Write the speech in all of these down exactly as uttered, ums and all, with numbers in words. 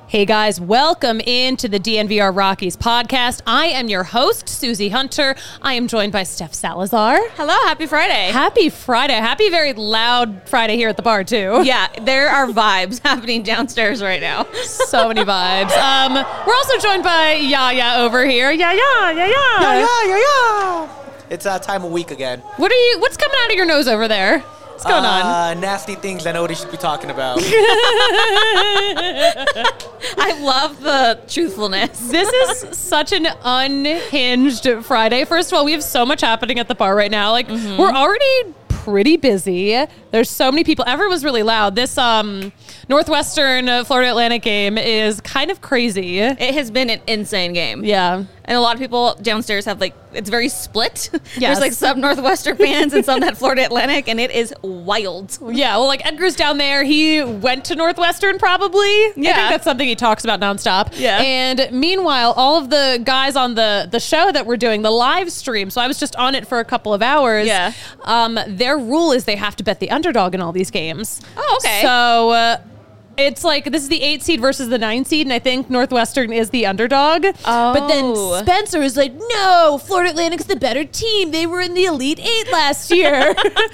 Hey guys, welcome into the D N V R Rockies podcast. I am your host, Susie Hunter. I am joined by Steph Salazar. Hello, happy Friday. Happy Friday. Happy very loud Friday here at the bar too. Yeah, there are vibes happening downstairs right now. So many vibes. Um, we're also joined by Yaya over here. Yaya, Yaya. Yeah, yeah, yeah, yeah. It's that uh, time of week again. What are you, what's coming out of your nose over there? What's going uh, on? Nasty things I know what he should be talking about. I love the truthfulness. This is such an unhinged Friday. First of all, we have so much happening at the bar right now. Like, mm-hmm. we're already pretty busy. There's so many people. Everyone's really loud. This um, Northwestern uh, Florida Atlantic game is kind of crazy. It has been an insane game. Yeah. And a lot of people downstairs have, like, it's very split. Yes. There's, like, some Northwestern fans and some that Florida Atlantic, and it is wild. Yeah, well, like, Edgar's down there. He went to Northwestern, probably. Yeah. I think that's something he talks about nonstop. Yeah. And meanwhile, all of the guys on the, the show that we're doing, the live stream, so I was just on it for a couple of hours. Yeah. Um, their rule is they have to bet the underdog in all these games. Oh, okay. So... Uh, It's like, this is the eight seed versus the nine seed, and I think Northwestern is the underdog. Oh. But then Spencer is like, no, Florida Atlantic's the better team. They were in the Elite Eight last year.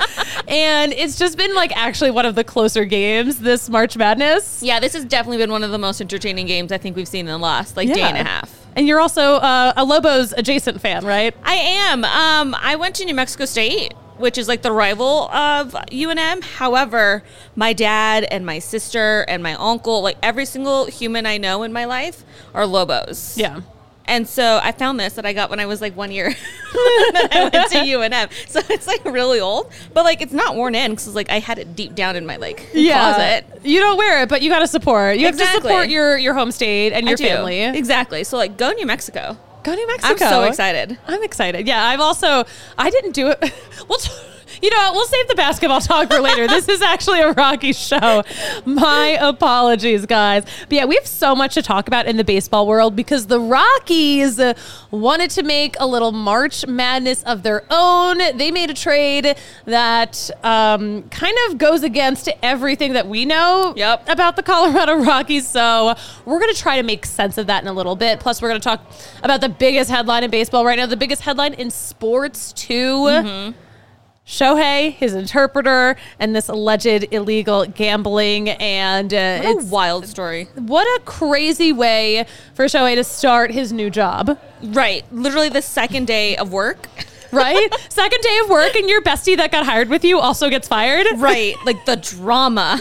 And it's just been, like, actually one of the closer games this March Madness. Yeah, this has definitely been one of the most entertaining games I think we've seen in the last, like, Yeah. day and a half. And you're also uh, a Lobos adjacent fan, right? I am. Um, I went to New Mexico State, which is like the rival of U N M. However, my dad and my sister and my uncle, like every single human I know in my life, are Lobos. Yeah. And so I found this that I got when I was like one year that I went to U N M. So it's like really old, but like it's not worn in because like I had it deep down in my like closet. You don't wear it, but you got to support. You Exactly. have to support your, your home state and your I do. family. Exactly. So like go New Mexico. Go New Mexico. I'm so excited. I'm excited. Yeah, I've also, I didn't do it. Well, t- you know what? We'll save the basketball talk for later. This is actually a Rockies show. My apologies, guys. But yeah, we have so much to talk about in the baseball world because the Rockies wanted to make a little March Madness of their own. They made a trade that um, kind of goes against everything that we know Yep. about the Colorado Rockies. So we're going to try to make sense of that in a little bit. Plus, we're going to talk about the biggest headline in baseball right now, the biggest headline in sports, too. Mm-hmm. Shohei, his interpreter, and this alleged illegal gambling. And uh, What it's a wild story. What a crazy way for Shohei to start his new job. Right. Literally the second day of work. Right? Second day of work, and your bestie that got hired with you also gets fired. Right. Like the drama.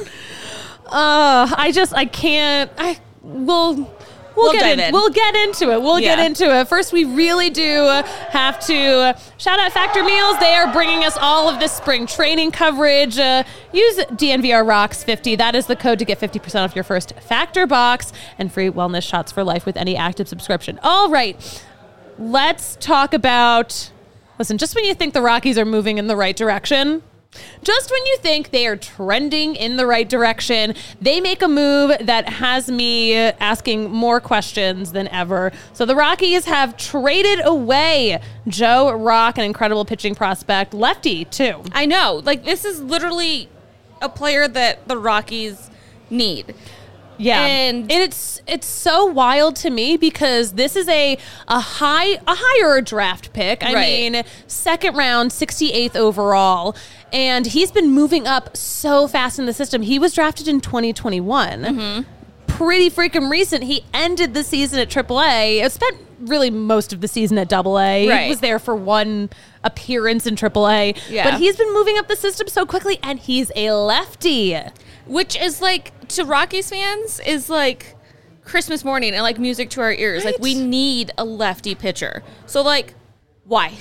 Uh, I just, I can't, I will... We'll, We'll get dive in, in. We'll get into it. We'll Yeah. get into it. First, we really do have to shout out Factor Meals. They are bringing us all of this spring training coverage. Uh, use D N V R Rocks fifty. That is the code to get fifty percent off your first Factor box and free wellness shots for life with any active subscription. All right, let's talk about, listen, just when you think the Rockies are moving in the right direction, just when you think they are trending in the right direction, they make a move that has me asking more questions than ever. So the Rockies have traded away Joe Rock, an incredible pitching prospect, lefty too. I know. Like, this is literally a player that the Rockies need. Yeah, And- it's it's so wild to me because this is a a high a higher draft pick. I Right. mean, second round, sixty-eighth overall, and he's been moving up so fast in the system. He was drafted in twenty twenty-one. Mm-hmm. Pretty freaking recent. He ended the season at triple A. It spent really most of the season at double A. Right. He was there for one appearance in triple A. Yeah. But he's been moving up the system so quickly, and he's a lefty. Which is like, to Rockies fans, is like Christmas morning and like music to our ears. Right. Like, we need a lefty pitcher. So, like, why?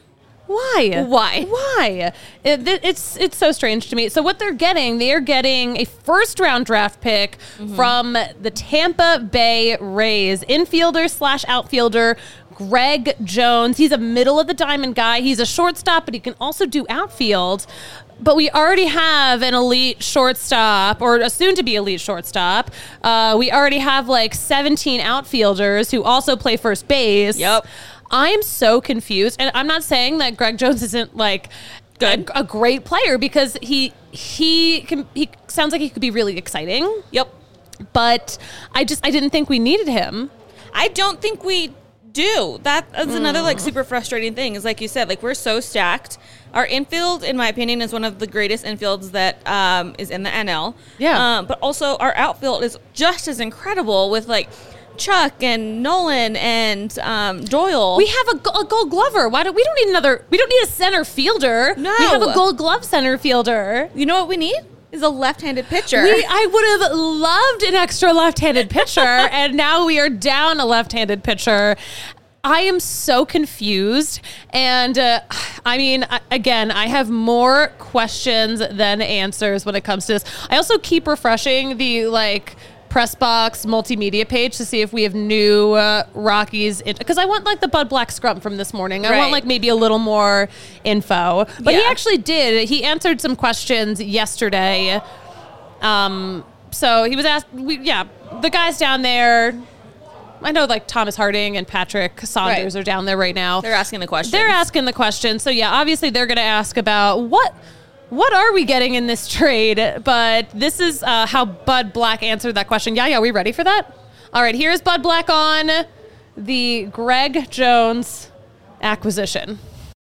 Why? Why? Why? It, it's it's so strange to me. So what they're getting, they are getting a first round draft pick mm-hmm. from the Tampa Bay Rays, infielder slash outfielder Greg Jones. He's a middle of the diamond guy. He's a shortstop, but he can also do outfield. But we already have an elite shortstop, or a soon-to-be elite shortstop. Uh, we already have like seventeen outfielders who also play first base. Yep. I am so confused, and I'm not saying that Greg Jones isn't like Good. A, a great player, because he he can he sounds like he could be really exciting. Yep. But I just, I didn't think we needed him. I don't think we do. That is mm. another like super frustrating thing is like you said, like we're so stacked. Our infield, in my opinion, is one of the greatest infields that um, is in the N L. Yeah. Um, but also our outfield is just as incredible with like Chuck and Nolan and um, Doyle. We have a, a Gold Glover. Why do we don't need another? We don't need a center fielder. No, we have a Gold Glove center fielder. You know what we need? Is a left-handed pitcher. We, I would have loved an extra left-handed pitcher, and now we are down a left-handed pitcher. I am so confused, and uh, I mean, again, I have more questions than answers when it comes to this. I also keep refreshing the like press box multimedia page to see if we have new uh, Rockies, because I want like the Bud Black scrum from this morning. I right. want like maybe a little more info, but yeah. he actually did. He answered some questions yesterday. Um, so he was asked, we, yeah, the guys down there. I know like Thomas Harding and Patrick Saunders right. are down there right now. They're asking the question. They're asking the question. So yeah, obviously they're going to ask about what what are we getting in this trade? But this is uh, how Bud Black answered that question. Yeah, yeah, are we ready for that? All right, here's Bud Black on the Greg Jones acquisition.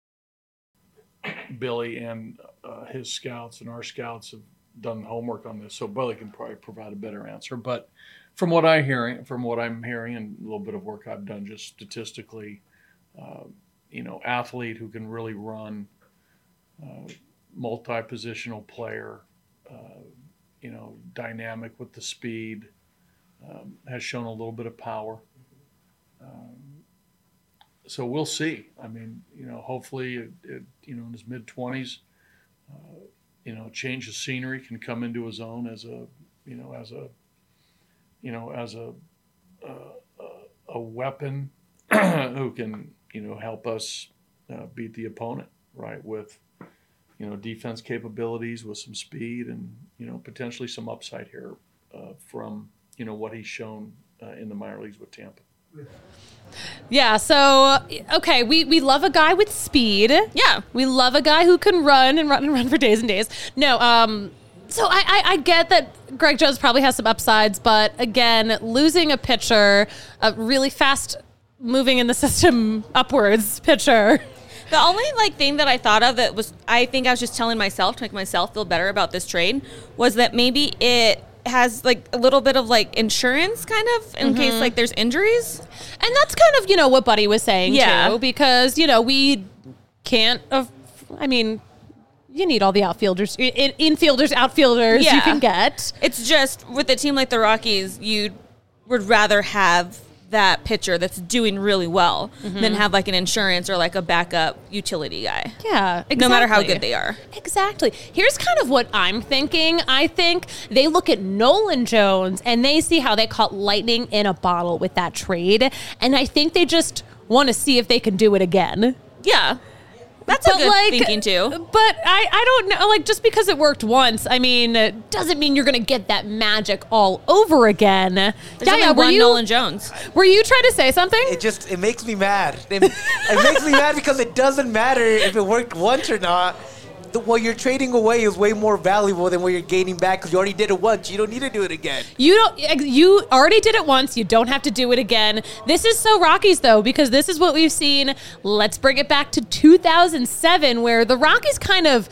Billy and uh, his scouts and our scouts have done homework on this, so Billy can probably provide a better answer. But from what I'm hearing, from what I'm hearing, and a little bit of work I've done just statistically, uh, you know, athlete who can really run, uh, multi-positional player, uh, you know, dynamic with the speed, um, has shown a little bit of power. Um, so we'll see. I mean, you know, hopefully, it, it, you know, in his mid twenties, uh, you know, change of scenery, can come into his own as a, you know, as a, you know, as a uh, a weapon who can, you know, help us uh, beat the opponent, right, with, you know, defense capabilities, with some speed and, you know, potentially some upside here uh, from, you know, what he's shown uh, in the minor leagues with Tampa. Yeah, so, okay, we, we love a guy with speed. Yeah. We love a guy who can run and run and run for days and days. No, um... So I, I, I get that Greg Jones probably has some upsides, but again, losing a pitcher, a really fast moving in the system upwards pitcher. The only like thing that I thought of that was, I think I was just telling myself to make myself feel better about this trade, was that maybe it has like a little bit of like insurance kind of in mm-hmm. case like there's injuries. And that's kind of, you know, what Buddy was saying yeah. too, because, you know, we can't, uh, I mean, you need all the outfielders, in, infielders, outfielders yeah. you can get. It's just with a team like the Rockies, you would rather have that pitcher that's doing really well mm-hmm. than have like an insurance or like a backup utility guy. Yeah, exactly. No matter how good they are. Exactly. Here's kind of what I'm thinking. I think they look at Nolan Jones and they see how they caught lightning in a bottle with that trade. And I think they just want to see if they can do it again. Yeah. That's but a good like, thinking too. But I, I don't know, like just because it worked once, I mean, it doesn't mean you're going to get that magic all over again. There's yeah, only yeah, one you, Nolan Jones. Were you trying to say something? It just, it makes me mad. It, it makes me mad because it doesn't matter if it worked once or not. The, what you're trading away is way more valuable than what you're gaining back because you already did it once. You don't need to do it again. You don't. You already did it once. You don't have to do it again. This is so Rockies, though, because this is what we've seen. Let's bring it back to two thousand seven, where the Rockies kind of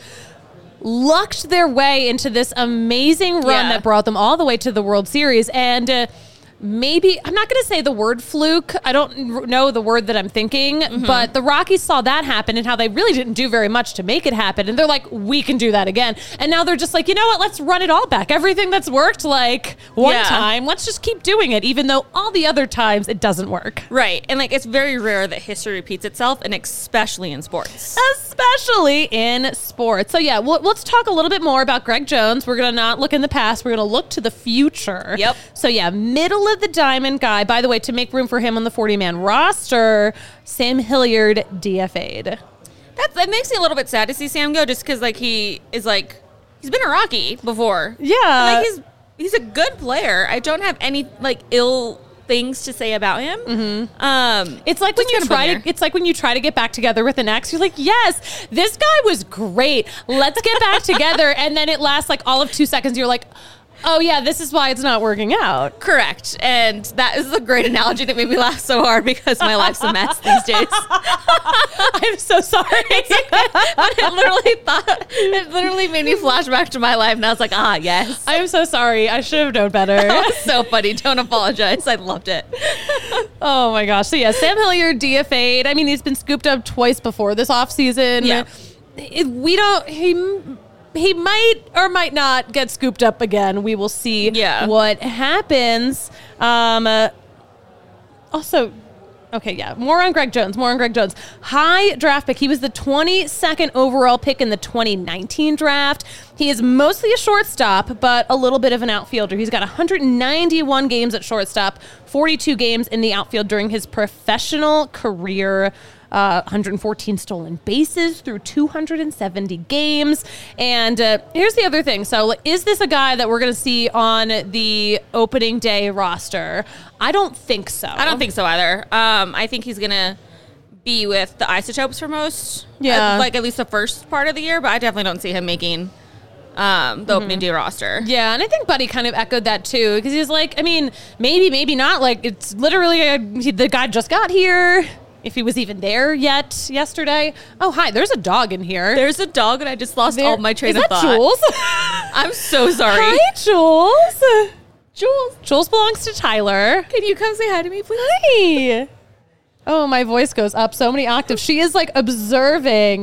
lucked their way into this amazing run yeah. that brought them all the way to the World Series. And uh, maybe, I'm not going to say the word fluke. I don't know the word that I'm thinking, mm-hmm. but the Rockies saw that happen and how they really didn't do very much to make it happen. And they're like, we can do that again. And now they're just like, you know what? Let's run it all back. Everything that's worked like one yeah. time, let's just keep doing it, even though all the other times it doesn't work. Right. And like, it's very rare that history repeats itself, and especially in sports. Especially in sports. So yeah, well, let's talk a little bit more about Greg Jones. We're going to not look in the past. We're going to look to the future. Yep. So yeah, middle of the diamond guy. By the way, to make room for him on the forty-man roster, Sam Hilliard D F A'd. That's, that makes me a little bit sad to see Sam go, just because like he is like, he's been a Rocky before. Yeah. And, like he's he's a good player. I don't have any like ill things to say about him. Mm-hmm. Um, it's like when you try to. It's like when you try to get back together with an ex. You're like, yes, this guy was great. Let's get back together, and then it lasts like all of two seconds. You're like, Oh, yeah, this is why it's not working out. Correct. And that is a great analogy that made me laugh so hard because my life's a mess these days. I'm so sorry. But it literally thought, it literally made me flash back to my life. And I was like, ah, yes. I'm so sorry. I should have known better. That was so funny. Don't apologize. I loved it. Oh, my gosh. So, yeah, Sam Hilliard D F A'd. I mean, he's been scooped up twice before this offseason. Yeah. It, we don't... He, He might or might not get scooped up again. We will see Yeah. what happens. Um, uh, also, okay, yeah, more on Greg Jones, more on Greg Jones. High draft pick. He was the twenty-second overall pick in the twenty nineteen draft. He is mostly a shortstop, but a little bit of an outfielder. He's got one hundred ninety-one games at shortstop, forty-two games in the outfield during his professional career. Uh, one hundred fourteen stolen bases through two hundred seventy games. And uh, here's the other thing. So is this a guy that we're going to see on the opening day roster? I don't think so. I don't think so either. Um, I think he's going to be with the Isotopes for most. Yeah. uh, like at least the first part of the year, but I definitely don't see him making um, the opening day roster. Yeah, and I think Buddy kind of echoed that too, because he's like, I mean, maybe, maybe not. Like, it's literally a, he, the guy just got here. If he was even there yet yesterday. Oh, hi, there's a dog in here. There's a dog, and I just lost There- all my train is of that thought. Jules? I'm so sorry. Hi, Jules. Jules. Jules belongs to Tyler. Can you come say hi to me, please? Hi. Oh, my voice goes up so many octaves. She is like observing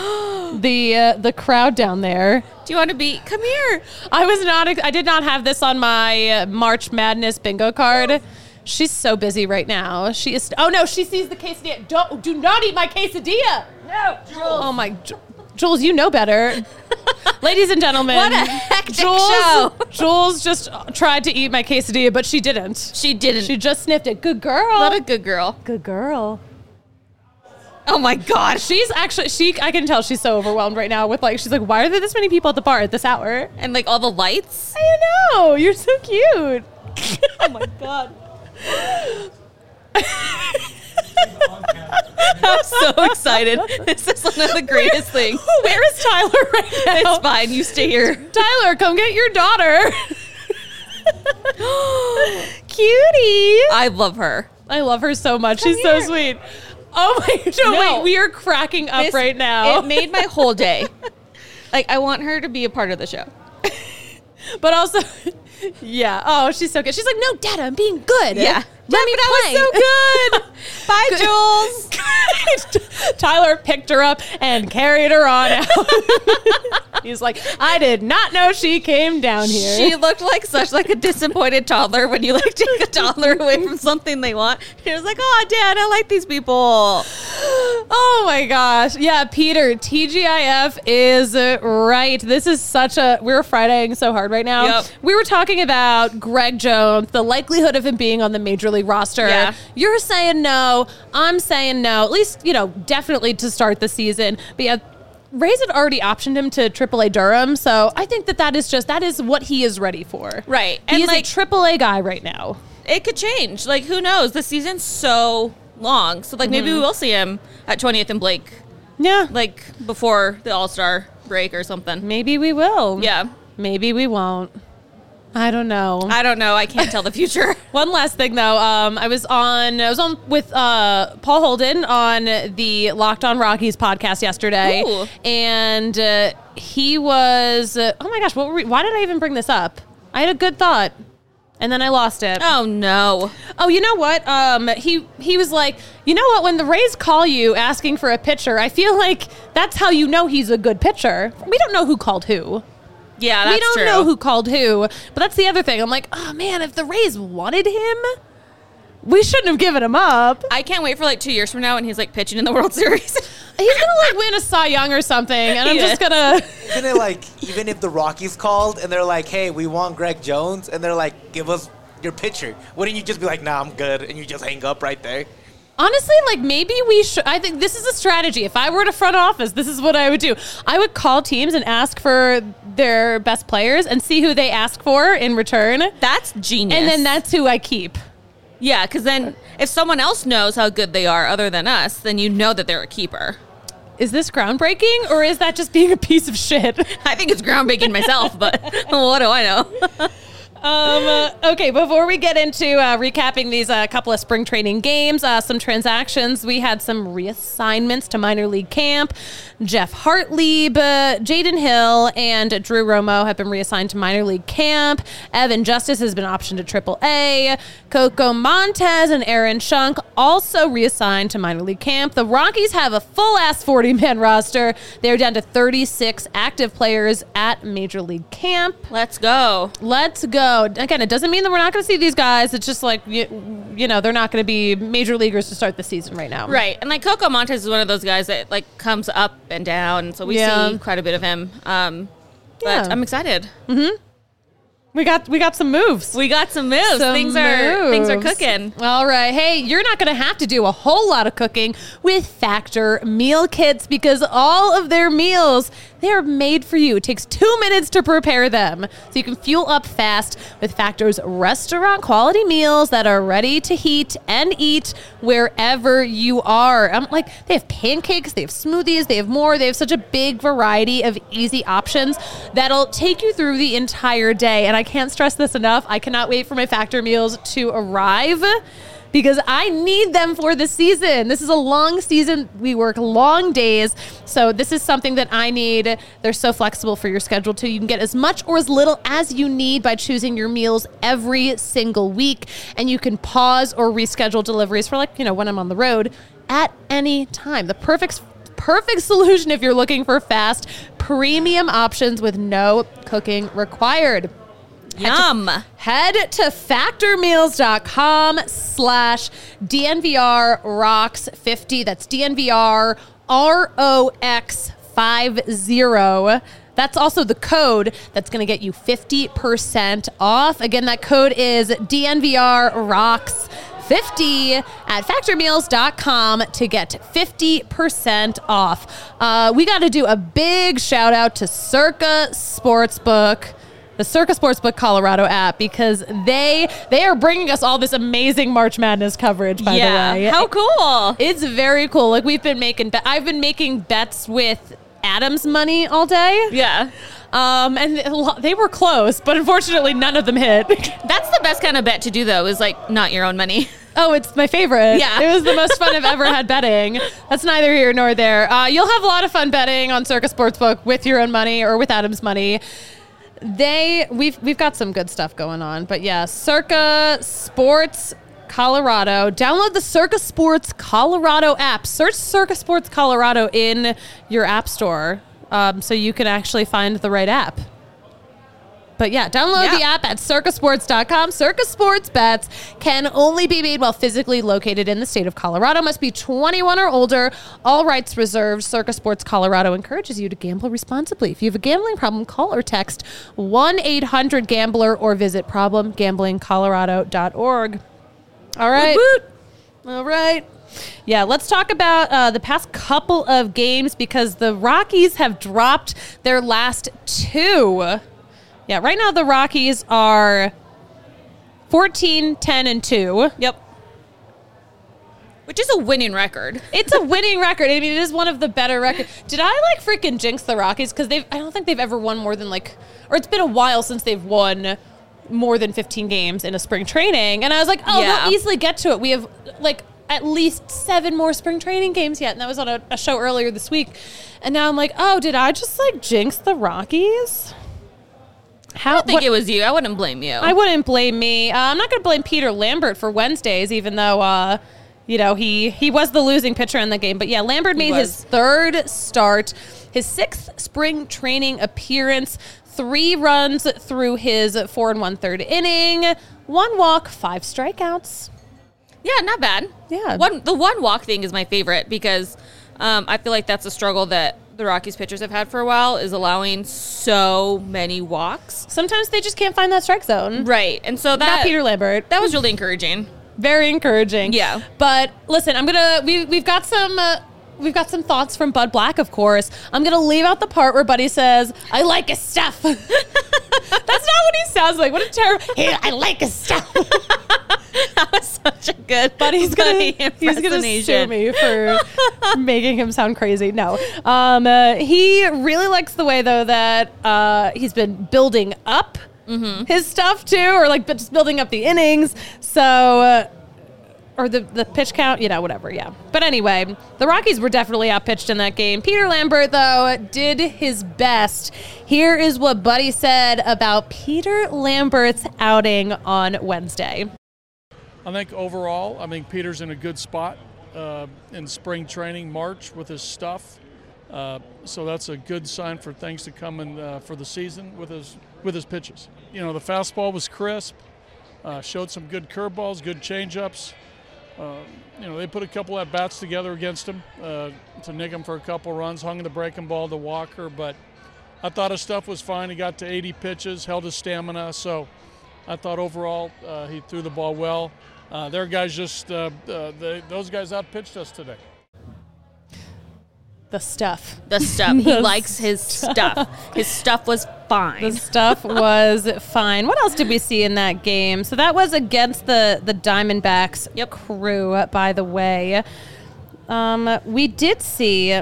the uh, the crowd down there. Do you want to be? Come here. I was not. I did not have this on my uh, March Madness bingo card. She's so busy right now. She is. Oh no, she sees the quesadilla. Don't do not eat my quesadilla. No, Jules. Oh my, Ju- Jules, you know better. Ladies and gentlemen, What a hectic Jules, show. Jules just tried to eat my quesadilla, but she didn't. She didn't. She just sniffed it. Good girl. What a good girl. good girl. Oh my gosh. She's actually she. I can tell she's so overwhelmed right now with like. She's like, why are there this many people at the bar at this hour? And like all the lights. I know. You're so cute. Oh my god. I'm so excited. This is one of the greatest things. Where is Tyler right now? It's fine. You stay here. Tyler, come get your daughter. Cutie. I love her. I love her so much. Come She's here. so sweet. Oh my, no, No. wait, we are cracking up This- right now. It made my whole day. Like I want her to be a part of the show. But also, yeah. Oh, she's so good. She's like, no, Dad, I'm being good. Yeah. Let me play. That was so good. Bye, Jules. Tyler picked her up and carried her on out. He's like, I did not know she came down here. She looked like such like a disappointed toddler when you like take a toddler away from something they want. She was like, "Oh, Dad, I like these people." Oh my gosh. Yeah, Peter, T G I F is right. This is such a, we're Fridaying so hard right now. Yep. We were talking about Greg Jones, the likelihood of him being on the Major League roster. Yeah. You're saying no. I'm saying no. At least, you know, definitely to start the season. But yeah, Rays had already optioned him to triple A Durham. So I think that that is just, that is what he is ready for. Right. He And is like a triple A guy right now. it could change. Like who knows? The season's so long. So like maybe we will see him at twentieth and Blake Yeah. like before the All-Star break or something. Maybe we will. Yeah. Maybe we won't. I don't know. I don't know. I can't tell the future. One last thing though, um, I was on I was on with uh, Paul Holden on the Locked On Rockies podcast yesterday, Ooh. and uh, he was uh, oh my gosh, what were we, why did I even bring this up? I had a good thought, and then I lost it. Oh no. Oh, you know what? Um, he he was like, you know what? When the Rays call you asking for a pitcher, I feel like that's how you know he's a good pitcher. We don't know who called who. Yeah, that's we don't true. know who called who, but that's the other thing. I'm like, oh man, if the Rays wanted him, we shouldn't have given him up. I can't wait for like two years from now when he's like pitching in the World Series. He's gonna like win a Cy Young or something, and I'm He just is. gonna. Isn't it like, even if the Rockies called and they're like, hey, we want Greg Jones, and they're like, give us your pitcher, wouldn't you just be like, nah, I'm good, and you just hang up right there? Honestly, like maybe we should. I think this is a strategy. If I were to front office, this is what I would do. I would call teams and ask for their best players and see who they ask for in return, That's genius. and then that's who I keep. yeah, because then if someone else knows how good they are other than us, then you know that they're a keeper. is this groundbreaking or is that just being a piece of shit? I think it's groundbreaking myself, but what do I know? Um, uh, okay, before we get into uh, recapping these uh, couple of spring training games, uh, some transactions, we had some reassignments to minor league camp. Jeff Hartlieb, uh, Jaden Hill, and Drew Romo have been reassigned to minor league camp. Evan Justice has been optioned to triple A. Coco Montez and Aaron Shunk also reassigned to minor league camp. The Rockies have a full-ass forty-man roster. They're down to thirty-six active players at major league camp. Let's go. Let's go. Again, it doesn't mean that we're not going to see these guys. It's just like, you, you know, they're not going to be major leaguers to start the season right now. Right. And like Coco Montez is one of those guys that like comes up and down. So we Yeah. see quite a bit of him. Um, but Yeah. I'm excited. We got we got some moves. We got some moves. Some things are things are moves. cooking. All right. Hey, you're not going to have to do a whole lot of cooking with Factor meal kits because all of their meals, they are made for you. It takes two minutes to prepare them. So you can fuel up fast with Factor's restaurant quality meals that are ready to heat and eat wherever you are. I'm like, they have pancakes, they have smoothies, they have more. They have such a big variety of easy options that'll take you through the entire day. And I can't stress this enough. I cannot wait for my Factor meals to arrive because I need them for the season. This is a long season. We work long days. So this is something that I need. They're so flexible for your schedule too. You can get as much or as little as you need by choosing your meals every single week. And you can pause or reschedule deliveries for like, you know, when I'm on the road at any time. The perfect Perfect solution if you're looking for fast, premium options with no cooking required. Yum. Head to factormeals.com slash DNVR rocks 50. That's D N V R R O X fifty. That's also the code that's going to get you fifty percent off. Again, that code is D N V R rocks fifty at factormeals dot com to get fifty percent off. Uh, we got to do a big shout out to Circa Sportsbook, the Circa Sportsbook Colorado app, because they they are bringing us all this amazing March Madness coverage, by yeah. the way. How cool. It's very cool. Like we've been making, be- I've been making bets with Adam's money all day. Yeah. Um, and they were close, but unfortunately none of them hit. That's the best kind of bet to do, though, is like not your own money. Oh, it's my favorite. Yeah. It was the most fun I've ever had betting. That's neither here nor there. Uh, you'll have a lot of fun betting on Circa Sportsbook with your own money or with Adam's money. They, we've, we've got some good stuff going on, but yeah, Circa Sports Colorado. Download the Circa Sports Colorado app. Search Circa Sports Colorado in your app store um, so you can actually find the right app. But yeah, download Yeah. the app at circa sports dot com. Circa Sports bets can only be made while physically located in the state of Colorado. Must be twenty-one or older. All rights reserved. Circa Sports Colorado encourages you to gamble responsibly. If you have a gambling problem, call or text one eight hundred gambler or visit problem gambling colorado dot org. All right. Woot woot. All right. Yeah, let's talk about uh, the past couple of games because the Rockies have dropped their last two. Yeah, right now the Rockies are fourteen, ten, and two. Yep. Which is a winning record. It's a winning record. I mean, it is one of the better records. Did I like freaking jinx the Rockies? Because they've I don't think they've ever won more than like, or it's been a while since they've won more than fifteen games in a spring training. And I was like, oh, Yeah. they'll easily get to it. We have like at least seven more spring training games yet. And that was on a, a show earlier this week. And now I'm like, oh, did I just like jinx the Rockies? How, I think what- it was you. I wouldn't blame you. I wouldn't blame me. Uh, I'm not going to blame Peter Lambert for Wednesdays, even though, uh, you know, he, he was the losing pitcher in the game. But yeah, Lambert made his was. third start, his sixth spring training appearance, three runs through his four and one third inning, one walk, five strikeouts. Yeah, not bad. Yeah. One the one walk thing is my favorite because um, I feel like that's a struggle that the Rockies pitchers have had for a while, is allowing so many walks. Sometimes they just can't find that strike zone. Right. And so that Not Peter Lambert. that was really encouraging. Very encouraging. Yeah. But listen, I'm gonna we we've got some uh, we've got some thoughts from Bud Black, of course. I'm gonna leave out the part where Buddy says, "I like his stuff." That's not what he sounds like. What a terrible. Hey, I like his stuff. That was such a good. But he's gonna Buddy he's gonna sue impersonation. me for making him sound crazy. No, um, uh, he really likes the way though that uh, he's been building up Mm-hmm. his stuff too, or like just building up the innings. So. Uh, Or the, the pitch count, you know, whatever, yeah. But anyway, the Rockies were definitely outpitched in that game. Peter Lambert, though, did his best. Here is what Buddy said about Peter Lambert's outing on Wednesday. I think overall, I think Peter's in a good spot uh, in spring training, March, with his stuff. Uh, so that's a good sign for things to come in uh, for the season with his with his pitches. You know, the fastball was crisp, uh, showed some good curveballs, good changeups. Uh, you know, they put a couple at bats together against him uh, to nick him for a couple runs, hung the breaking ball to Walker, but I thought his stuff was fine. He got to eighty pitches, held his stamina, so I thought overall uh, he threw the ball well. Uh, their guys just, uh, uh, they, those guys outpitched us today. The stuff. The stuff. He The likes his stuff. His stuff was fine. The stuff was fine. What else did we see in that game? So that was against the, the Diamondbacks Yep. crew, by the way. Um, we did see...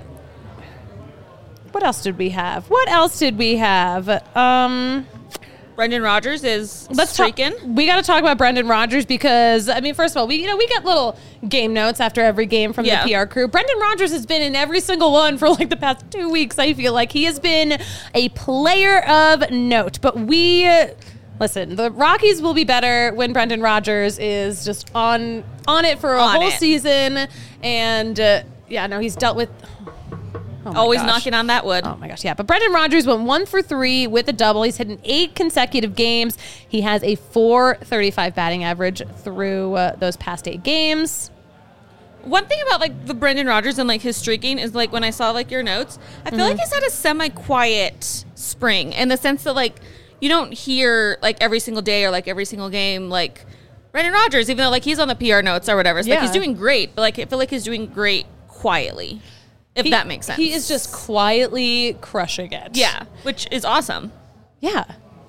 What else did we have? What else did we have? Um... Brendan Rodgers is Let's talk, streaking. we got to talk about Brendan Rodgers because I mean, first of all, we you know we get little game notes after every game from Yeah. the P R crew. Brendan Rodgers has been in every single one for like the past two weeks. I feel like he has been a player of note. But we listen, the Rockies will be better when Brendan Rodgers is just on on it for a On whole it. season. And uh, yeah, no, he's dealt with. Oh my Always gosh. knocking on that wood. Oh my gosh, yeah. But Brendan Rodgers went one for three with a double. He's hit in eight consecutive games. He has a four thirty-five batting average through uh, those past eight games. One thing about like the Brendan Rodgers and like his streaking is like when I saw like your notes, I feel Mm-hmm. like he's had a semi-quiet spring in the sense that like you don't hear like every single day or like every single game like Brendan Rodgers, even though like he's on the P R notes or whatever. So like Yeah. he's doing great, but like I feel like he's doing great quietly, if He- that makes sense. He is just quietly crushing it. yeah, which is awesome. Yeah.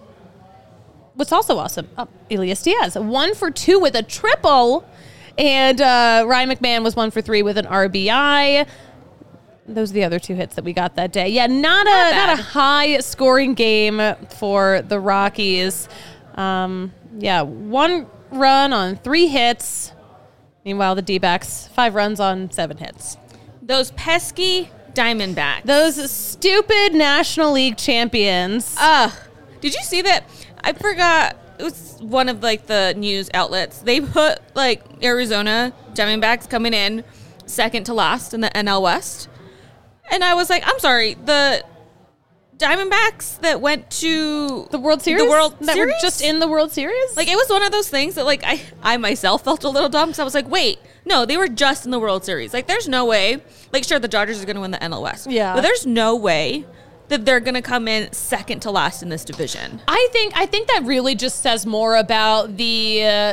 What's also awesome, oh, Elias Diaz, one for two with a triple. And uh, Ryan McMahon was one for three with an R B I. Those are the other two hits that we got that day. Yeah, not, a bad. not a high scoring game for the Rockies. Um, yeah, one run on three hits. Meanwhile, the D-backs, five runs on seven hits. Those pesky Diamondbacks. Those stupid National League champions. Ugh. Did you see that? I forgot. It was one of like the news outlets. They put like Arizona Diamondbacks coming in second to last in the N L West. And I was like, I'm sorry, the Diamondbacks that went to The World Series? The World that Series? were just in the World Series? Like, it was one of those things that, like, I, I myself felt a little dumb because I was like, wait, no, they were just in the World Series. Like, there's no way. Like, sure, the Dodgers are going to win the N L West. Yeah. But there's no way that they're going to come in second to last in this division. I think I think that really just says more about the uh,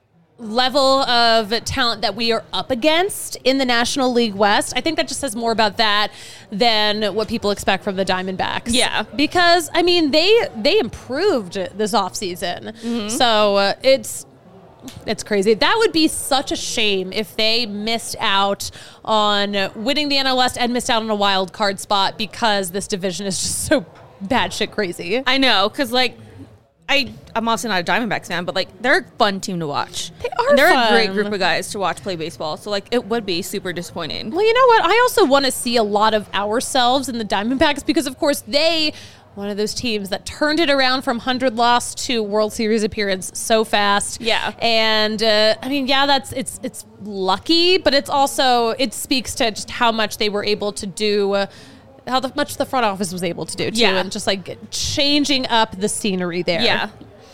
level of talent that we are up against in the National League West. I think that just says more about that than what people expect from the Diamondbacks. Yeah. Because I mean, they they improved this offseason. Mm-hmm. So uh, it's It's crazy. That would be such a shame if they missed out on winning the N L West and missed out on a wild card spot because this division is just so batshit crazy. I know, because, like, I, I'm obviously not a Diamondbacks fan, but, like, they're a fun team to watch. They are And they're fun. a great group of guys to watch play baseball. So, like, it would be super disappointing. Well, you know what? I also want to see a lot of ourselves in the Diamondbacks because, of course, they, one of those teams that turned it around from one hundred loss to World Series appearance so fast. Yeah. And, uh, I mean, yeah, that's, it's, it's lucky, but it's also, it speaks to just how much they were able to do, uh, how the, much the front office was able to do, too. Yeah. And just, like, changing up the scenery there. Yeah.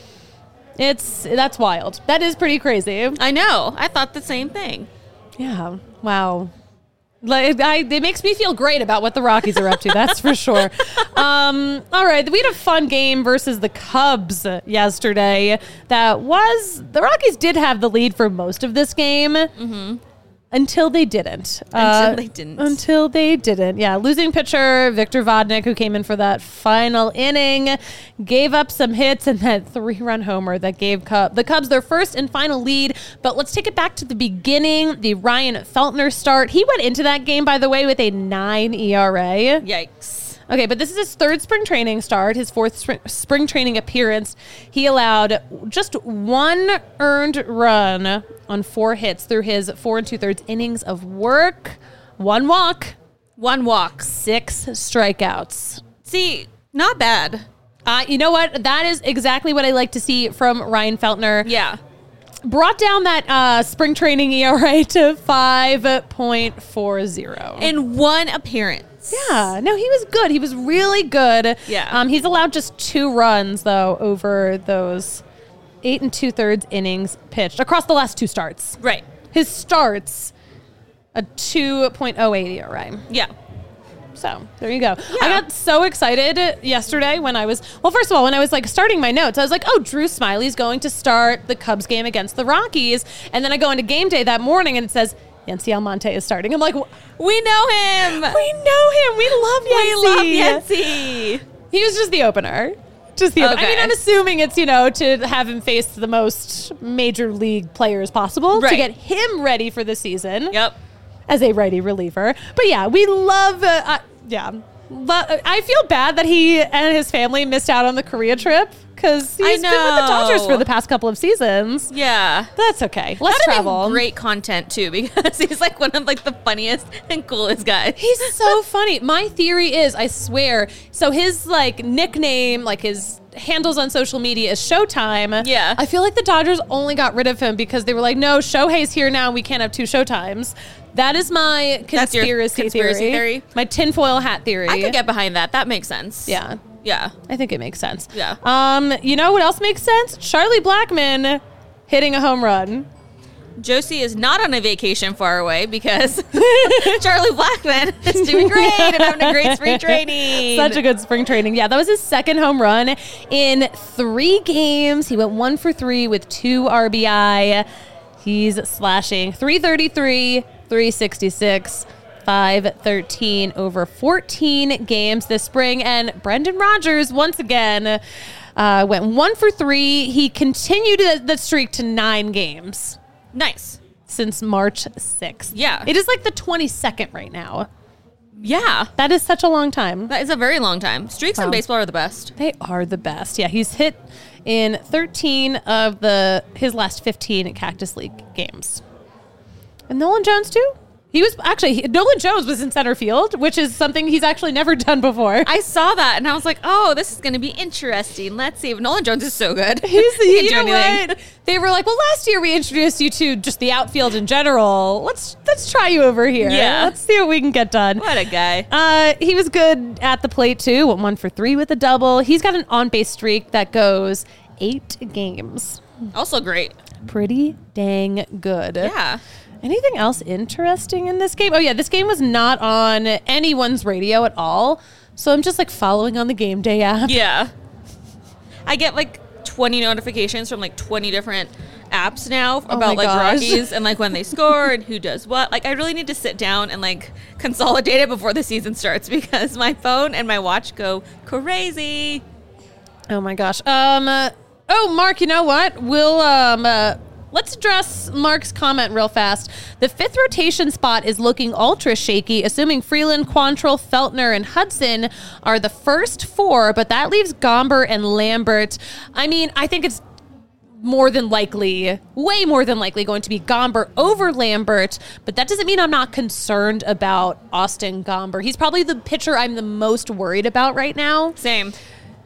It's, that's wild. That is pretty crazy. I know. I thought the same thing. Yeah. Wow. Like, I, it makes me feel great about what the Rockies are up to. That's for sure. Um, all right. We had a fun game versus the Cubs yesterday. That was, the Rockies did have the lead for most of this game. Mm-hmm. Until they didn't. Until Uh, they didn't. Until they didn't. Yeah. Losing pitcher Victor Vodnik, who came in for that final inning, gave up some hits and that three-run homer that gave Cub- the Cubs their first and final lead. But let's take it back to the beginning. The Ryan Feltner start. He went into that game, by the way, with a nine E R A. Yikes. Okay, but this is his third spring training start, his fourth spring, spring training appearance. He allowed just one earned run on four hits through his four and two-thirds innings of work. One walk, One walk. six strikeouts. See, not bad. Uh, you know what? That is exactly what I like to see from Ryan Feltner. Yeah. Brought down that uh, spring training E R A to five point four oh. In one appearance. Yeah, no, he was good. He was really good. Yeah. Um, he's allowed just two runs, though, over those eight and two-thirds innings pitched across the last two starts. Right. His starts, a two point oh eight E R A. Yeah. So there you go. Yeah. I got so excited yesterday when I was, well, first of all, when I was like starting my notes, I was like, oh, Drew Smiley's going to start the Cubs game against the Rockies. And then I go into game day that morning and it says, Yancy Almonte is starting. I'm like, We know him. we know him. We love Yancy. We love Yancy. He was just the opener. Just the opener. I Okay. mean, I'm assuming it's, you know, to have him face the most major league players possible to Right. get him ready for the season Yep. as a righty reliever. But yeah, we love, uh, uh, yeah. Lo- I feel bad that he and his family missed out on the Korea trip because he's been with the Dodgers know. for the past couple of seasons. Yeah. That's okay. Let's That'd have been travel. great content too, because he's like one of like the funniest and coolest guys. He's so funny. My theory is, I swear, so his like nickname, like his handles on social media is Showtime. Yeah. I feel like the Dodgers only got rid of him because they were like, no, Shohei's here now. We can't have two Showtimes. That is my That's your conspiracy, conspiracy theory. theory? My tinfoil hat theory. I could get behind that. That makes sense. Yeah. Yeah. I think it makes sense. Yeah. Um, you know what else makes sense? Charlie Blackmon hitting a home run. Josie is not on a vacation far away because Charlie Blackmon is doing great and having a great spring training. Such a good spring training. Yeah, that was his second home run in three games. He went one for three with two R B I. He's slashing three thirty-three, three sixty-six, five thirteen over fourteen games this spring. And Brendan Rodgers, once again, uh, went one for three. He continued the streak to nine games Nice. since March sixth. Yeah. It is like the twenty-second right now. Yeah. That is such a long time. That is a very long time. Streaks in Wow. baseball are the best. They are the best. Yeah, he's hit in thirteen of the his last fifteen Cactus League games. And Nolan Jones too? He was actually he, Nolan Jones was in center field, which is something he's actually never done before. I saw that and I was like, oh, this is going to be interesting. Let's see. Nolan Jones is so good. He's, He can you do know anything. what? They were like, well, last year we introduced you to just the outfield in general. Let's let's try you over here. Yeah. Let's see what we can get done. What a guy. Uh, he was good at the plate too. Went one for three with a double. He's got an on-base streak that goes eight games. Also great. Pretty dang good. Yeah. Anything else interesting in this game? Oh yeah, this game was not on anyone's radio at all. So I'm just like following on the game day app. Yeah. I get like twenty notifications from like twenty different apps now Oh about my like gosh. Rockies and like when they score and who does what. Like I really need to sit down and like consolidate it before the season starts because my phone and my watch go crazy. Oh my gosh. Um. uh, oh, Mark. You know what? We'll um. Uh, let's address Mark's comment real fast. The fifth rotation spot is looking ultra shaky, assuming Freeland, Quantrill, Feltner, and Hudson are the first four, but that leaves Gomber and Lambert. I mean, I think it's more than likely, way more than likely going to be Gomber over Lambert, but that doesn't mean I'm not concerned about Austin Gomber. He's probably the pitcher I'm the most worried about right now. Same.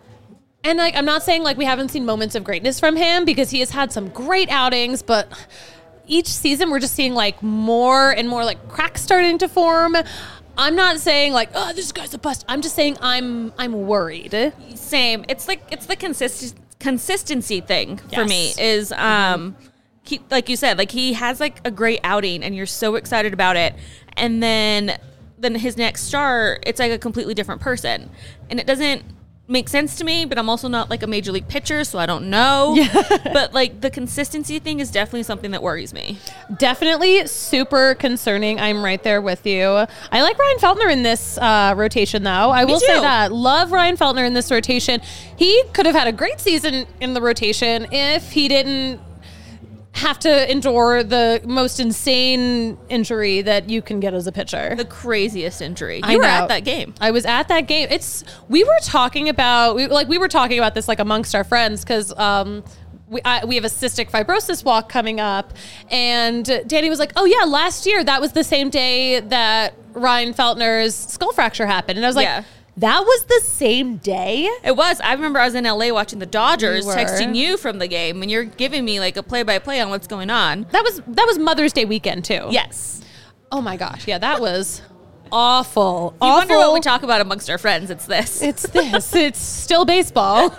And like, I'm not saying like we haven't seen moments of greatness from him because he has had some great outings, but each season we're just seeing like more and more like cracks starting to form. I'm not saying like, oh, this guy's a bust. I'm just saying I'm I'm worried. Same. It's like it's the consist consistency thing for Yes. me is um he, like you said, like he has like a great outing and you're so excited about it, and then then his next start it's like a completely different person, and it doesn't makes sense to me, but I'm also not like a major league pitcher, so I don't know. Yeah. But like the consistency thing is definitely something that worries me. Definitely super concerning. I'm right there with you. I like Ryan Feltner in this uh, rotation, though. I Me will too. say that. Love Ryan Feltner in this rotation. He could have had a great season in the rotation if he didn't have to endure the most insane injury that you can get as a pitcher. The craziest injury. I You were know. at that game. I was at that game. It's we were talking about we, like we were talking about this like amongst our friends because um, we I, we have a cystic fibrosis walk coming up, and Danny was like, "Oh yeah, last year that was the same day that Ryan Feltner's skull fracture happened," and I was like, Yeah. "That was the same day." It was. I remember I was in L A watching the Dodgers, You were. texting you from the game, and you're giving me like a play-by-play on what's going on. That was that was Mother's Day weekend too. Yes. Oh my gosh. Yeah, that was awful. You awful. wonder what we talk about amongst our friends. It's this. It's this. It's still baseball.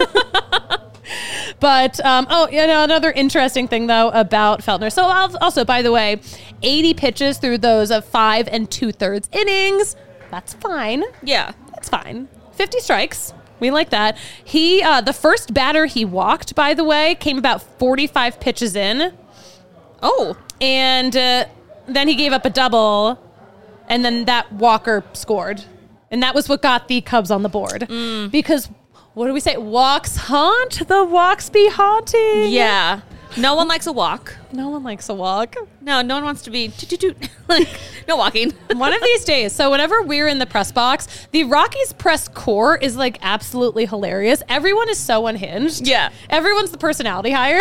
But, um, oh, you know, another interesting thing, though, about Feltner. So, I'll- also, by the way, eighty pitches through those of five and two-thirds innings. That's fine. Yeah. That's fine. fifty strikes. We like that. He, uh, the first batter he walked, by the way, came about forty-five pitches in. Oh. And uh, then he gave up a double, and then that Walker scored. And that was what got the Cubs on the board. Mm. Because, what do we say? Walks haunt, the walks be haunting. Yeah. No one likes a walk. No one likes a walk. No, no one wants to be toot, toot, toot. Like, no walking. One of these days. So whenever we're in the press box, the Rockies press corps is like absolutely hilarious. Everyone is so unhinged. Yeah. Everyone's the personality hire.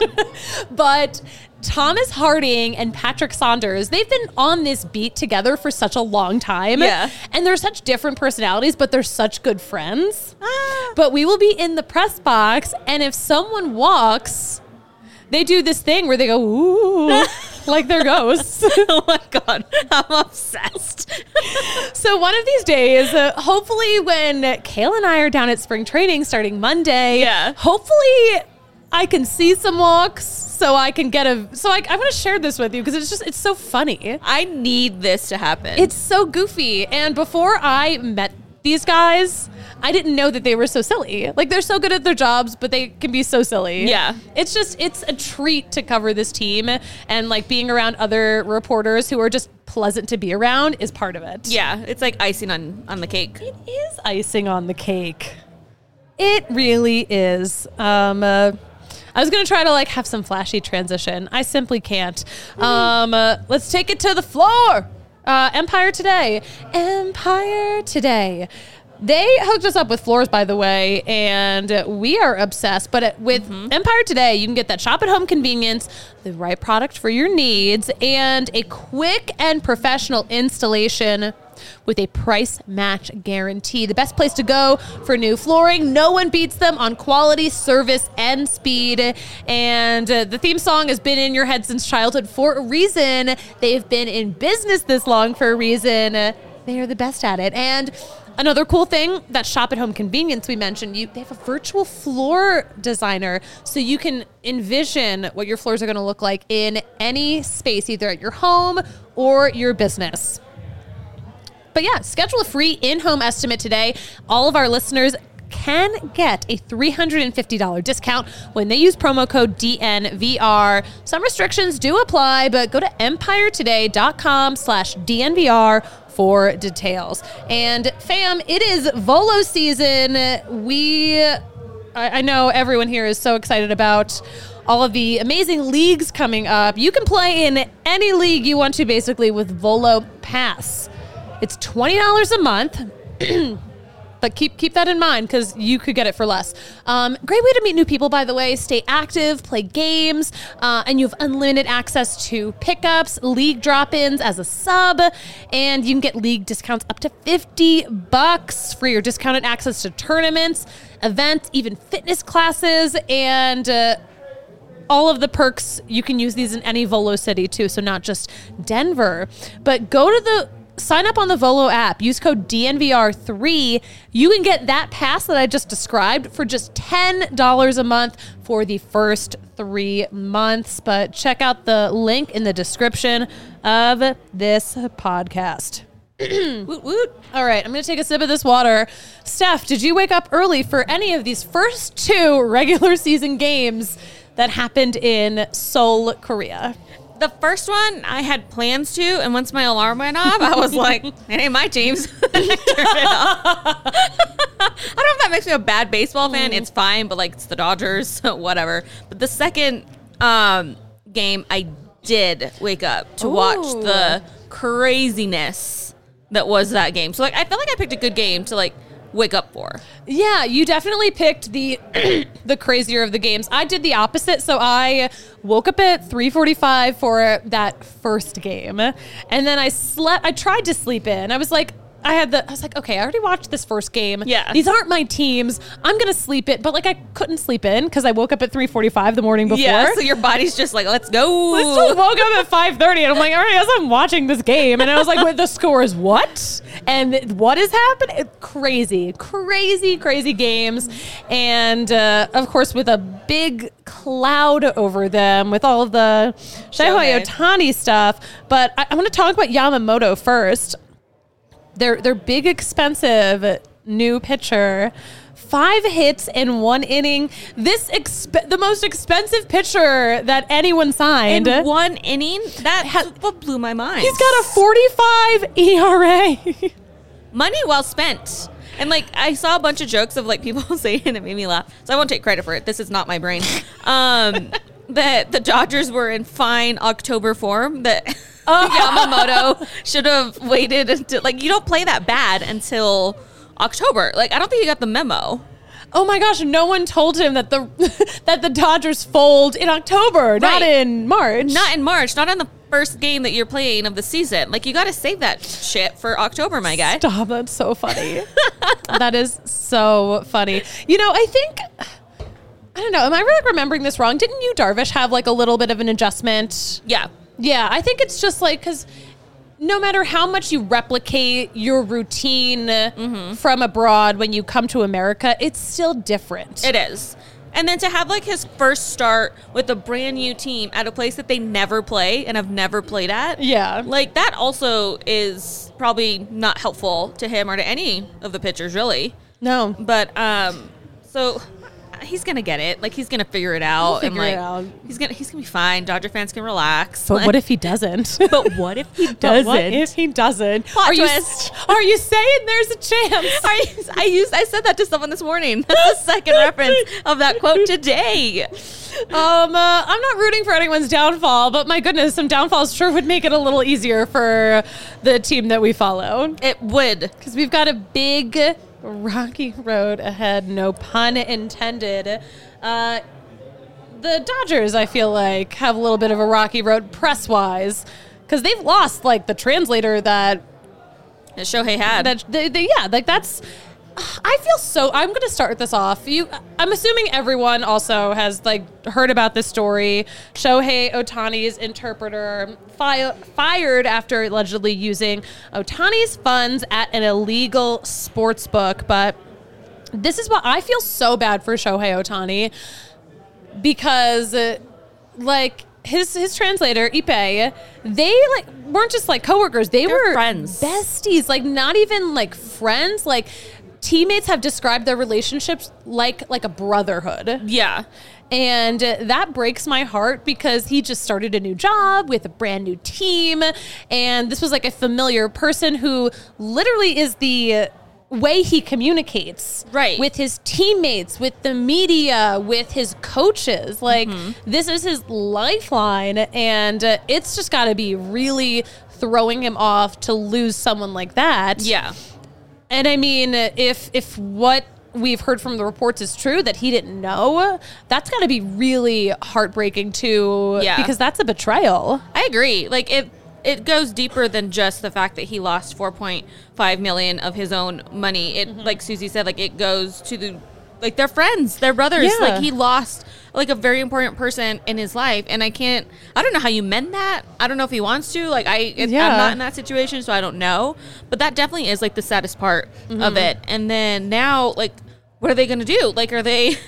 But Thomas Harding and Patrick Saunders, they've been on this beat together for such a long time. Yeah. And they're such different personalities, but they're such good friends. Ah. But we will be in the press box, and if someone walks, they do this thing where they go, ooh, like they're ghosts. Oh my God. I'm obsessed. So one of these days, uh, hopefully when Kayla and I are down at spring training starting Monday, Yeah. hopefully I can see some walks so I can get a, so I, I'm going to share this with you because it's just, it's so funny. I need this to happen. It's so goofy. And before I met these guys, I didn't know that they were so silly. Like, they're so good at their jobs, but they can be so silly. Yeah. It's just, it's a treat to cover this team, and like being around other reporters who are just pleasant to be around is part of it. yeah. It's like icing on, on the cake. It is icing on the cake. It really is. Um, uh, I was going to try to like have some flashy transition. I simply can't. Um, uh, let's take it to the floor. Uh, Empire Today. Empire Today. They hooked us up with floors, by the way, and we are obsessed. But with mm-hmm. Empire Today, you can get that shop at home convenience, the right product for your needs, and a quick and professional installation with a price match guarantee. The best place to go for new flooring. No one beats them on quality, service, and speed. And uh, the theme song has been in your head since childhood for a reason. They've been in business this long for a reason. They are the best at it. And another cool thing, that shop at home convenience we mentioned, you they have a virtual floor designer, so you can envision what your floors are going to look like in any space, either at your home or your business. But yeah, schedule a free in-home estimate today. All of our listeners can get a three hundred fifty dollars discount when they use promo code D N V R. Some restrictions do apply, but go to empiretoday.com slash DNVR for details. And fam, it is Volo season. We, I, I know everyone here is so excited about all of the amazing leagues coming up. You can play in any league you want to, basically, with Volo Pass. It's twenty dollars a month. But keep keep that in mind because you could get it for less. Um, great way to meet new people, by the way. Stay active, play games, uh, and you have unlimited access to pickups, league drop-ins as a sub, and you can get league discounts up to fifty bucks for your discounted access to tournaments, events, even fitness classes, and uh, all of the perks. You can use these in any Volo city too, so not just Denver. But go to the Sign up on the Volo app. Use code D N V R three. You can get that pass that I just described for just ten dollars a month for the first three months. But check out the link in the description of this podcast. Woot woot. All right, I'm going to take a sip of this water. Steph, did you wake up early for any of these first two regular season games that happened in Seoul, Korea? The first one, I had plans to, and once my alarm went off, I was like, it ain't my teams. I turned it off. I don't know if that makes me a bad baseball fan. It's fine, but like it's the Dodgers, so whatever. But the second um, game, I did wake up to Ooh. watch the craziness that was that game. So like, I felt like I picked a good game to like wake up for. Yeah, you definitely picked the the crazier of the games. I did the opposite, so I woke up at three forty-five for that first game, and then I slept. I tried to sleep in. I was like, I had the. I was like, okay, I already watched this first game. Yeah. These aren't my teams. I'm gonna sleep it, but like I couldn't sleep in because I woke up at three forty-five the morning before. Yeah, so your body's just like, let's go. I still woke up at five thirty, and I'm like, all right, as I'm watching this game, and I was like, wait, the score is what? And what is happening? It- Crazy, crazy, crazy games. And, uh, of course, with a big cloud over them with all of the Shohei Shohei. Ohtani stuff. But I, I want to talk about Yamamoto first. Their, their big, expensive new pitcher. Five hits in one inning. This exp- the most expensive pitcher that anyone signed. In one inning, that ha- what blew my mind. He's got a forty-five E R A. Money well spent. And like I saw a bunch of jokes of like people saying, and it made me laugh. So I won't take credit for it. This is not my brain. Um, that the Dodgers were in fine October form. That Yamamoto should have waited until like you don't play that bad until October. Like I don't think he got the memo. Oh my gosh, no one told him that the that the Dodgers fold in October, not Right. in March. Not in March. Not on the first game that you're playing of the season. Like you got to save that shit for October, my guy. Stop, that's so funny. That is so funny. You know, I think I don't know, am I really remembering this wrong? Didn't you, Darvish, have like a little bit of an adjustment? Yeah. Yeah, I think it's just like because no matter how much you replicate your routine Mm-hmm. from abroad when you come to America, it's still different. It is. And then to have like his first start with a brand new team at a place that they never play and have never played at. Yeah. Like that also is probably not helpful to him or to any of the pitchers really. No. But um so he's gonna get it. Like he's gonna figure it out. He'll figure and it like out. he's gonna he's gonna be fine. Dodger fans can relax. But Like, what if he doesn't? but what if he But doesn't? what if he doesn't? Plot are you twist. are you saying there's a chance? I, I used I said that to someone this morning. That's the second reference of that quote today. Um, uh, I'm not rooting for anyone's downfall, but my goodness, some downfalls sure would make it a little easier for the team that we follow. It would. Because we've got a big rocky road ahead, no pun intended. Uh, the Dodgers, I feel like, have a little bit of a rocky road press-wise, because they've lost, like, the translator that That Shohei had. that they, they, yeah, like that's. I feel so. I'm going to start this off. You, I'm assuming everyone also has like heard about this story. Shohei Ohtani's interpreter fi- fired after allegedly using Ohtani's funds at an illegal sports book. But this is what I feel so bad for Shohei Ohtani because, uh, like. His his translator Ippei, they like weren't just like coworkers. They They're were friends. besties, like not even like friends. Like teammates have described their relationships like like a brotherhood. yeah. And uh, that breaks my heart because he just started a new job with a brand new team. And this was like a familiar person who literally is the way he communicates Right. with his teammates, with the media, with his coaches. Like, this is his lifeline. And uh, it's just got to be really throwing him off to lose someone like that. Yeah. And I mean, if if what we've heard from the reports is true, that he didn't know, that's got to be really heartbreaking too. Yeah. Because that's a betrayal. I agree. Like it it goes deeper than just the fact that he lost four point five million of his own money. It like Susie said, like it goes to the like they're friends, they're brothers. Yeah. Like he lost like a very important person in his life, and I can't. I don't know how you mend that. I don't know if he wants to. Like I, it, Yeah. I'm not in that situation, so I don't know. But that definitely is like the saddest part of it. And then now, like, what are they going to do? Like, are they?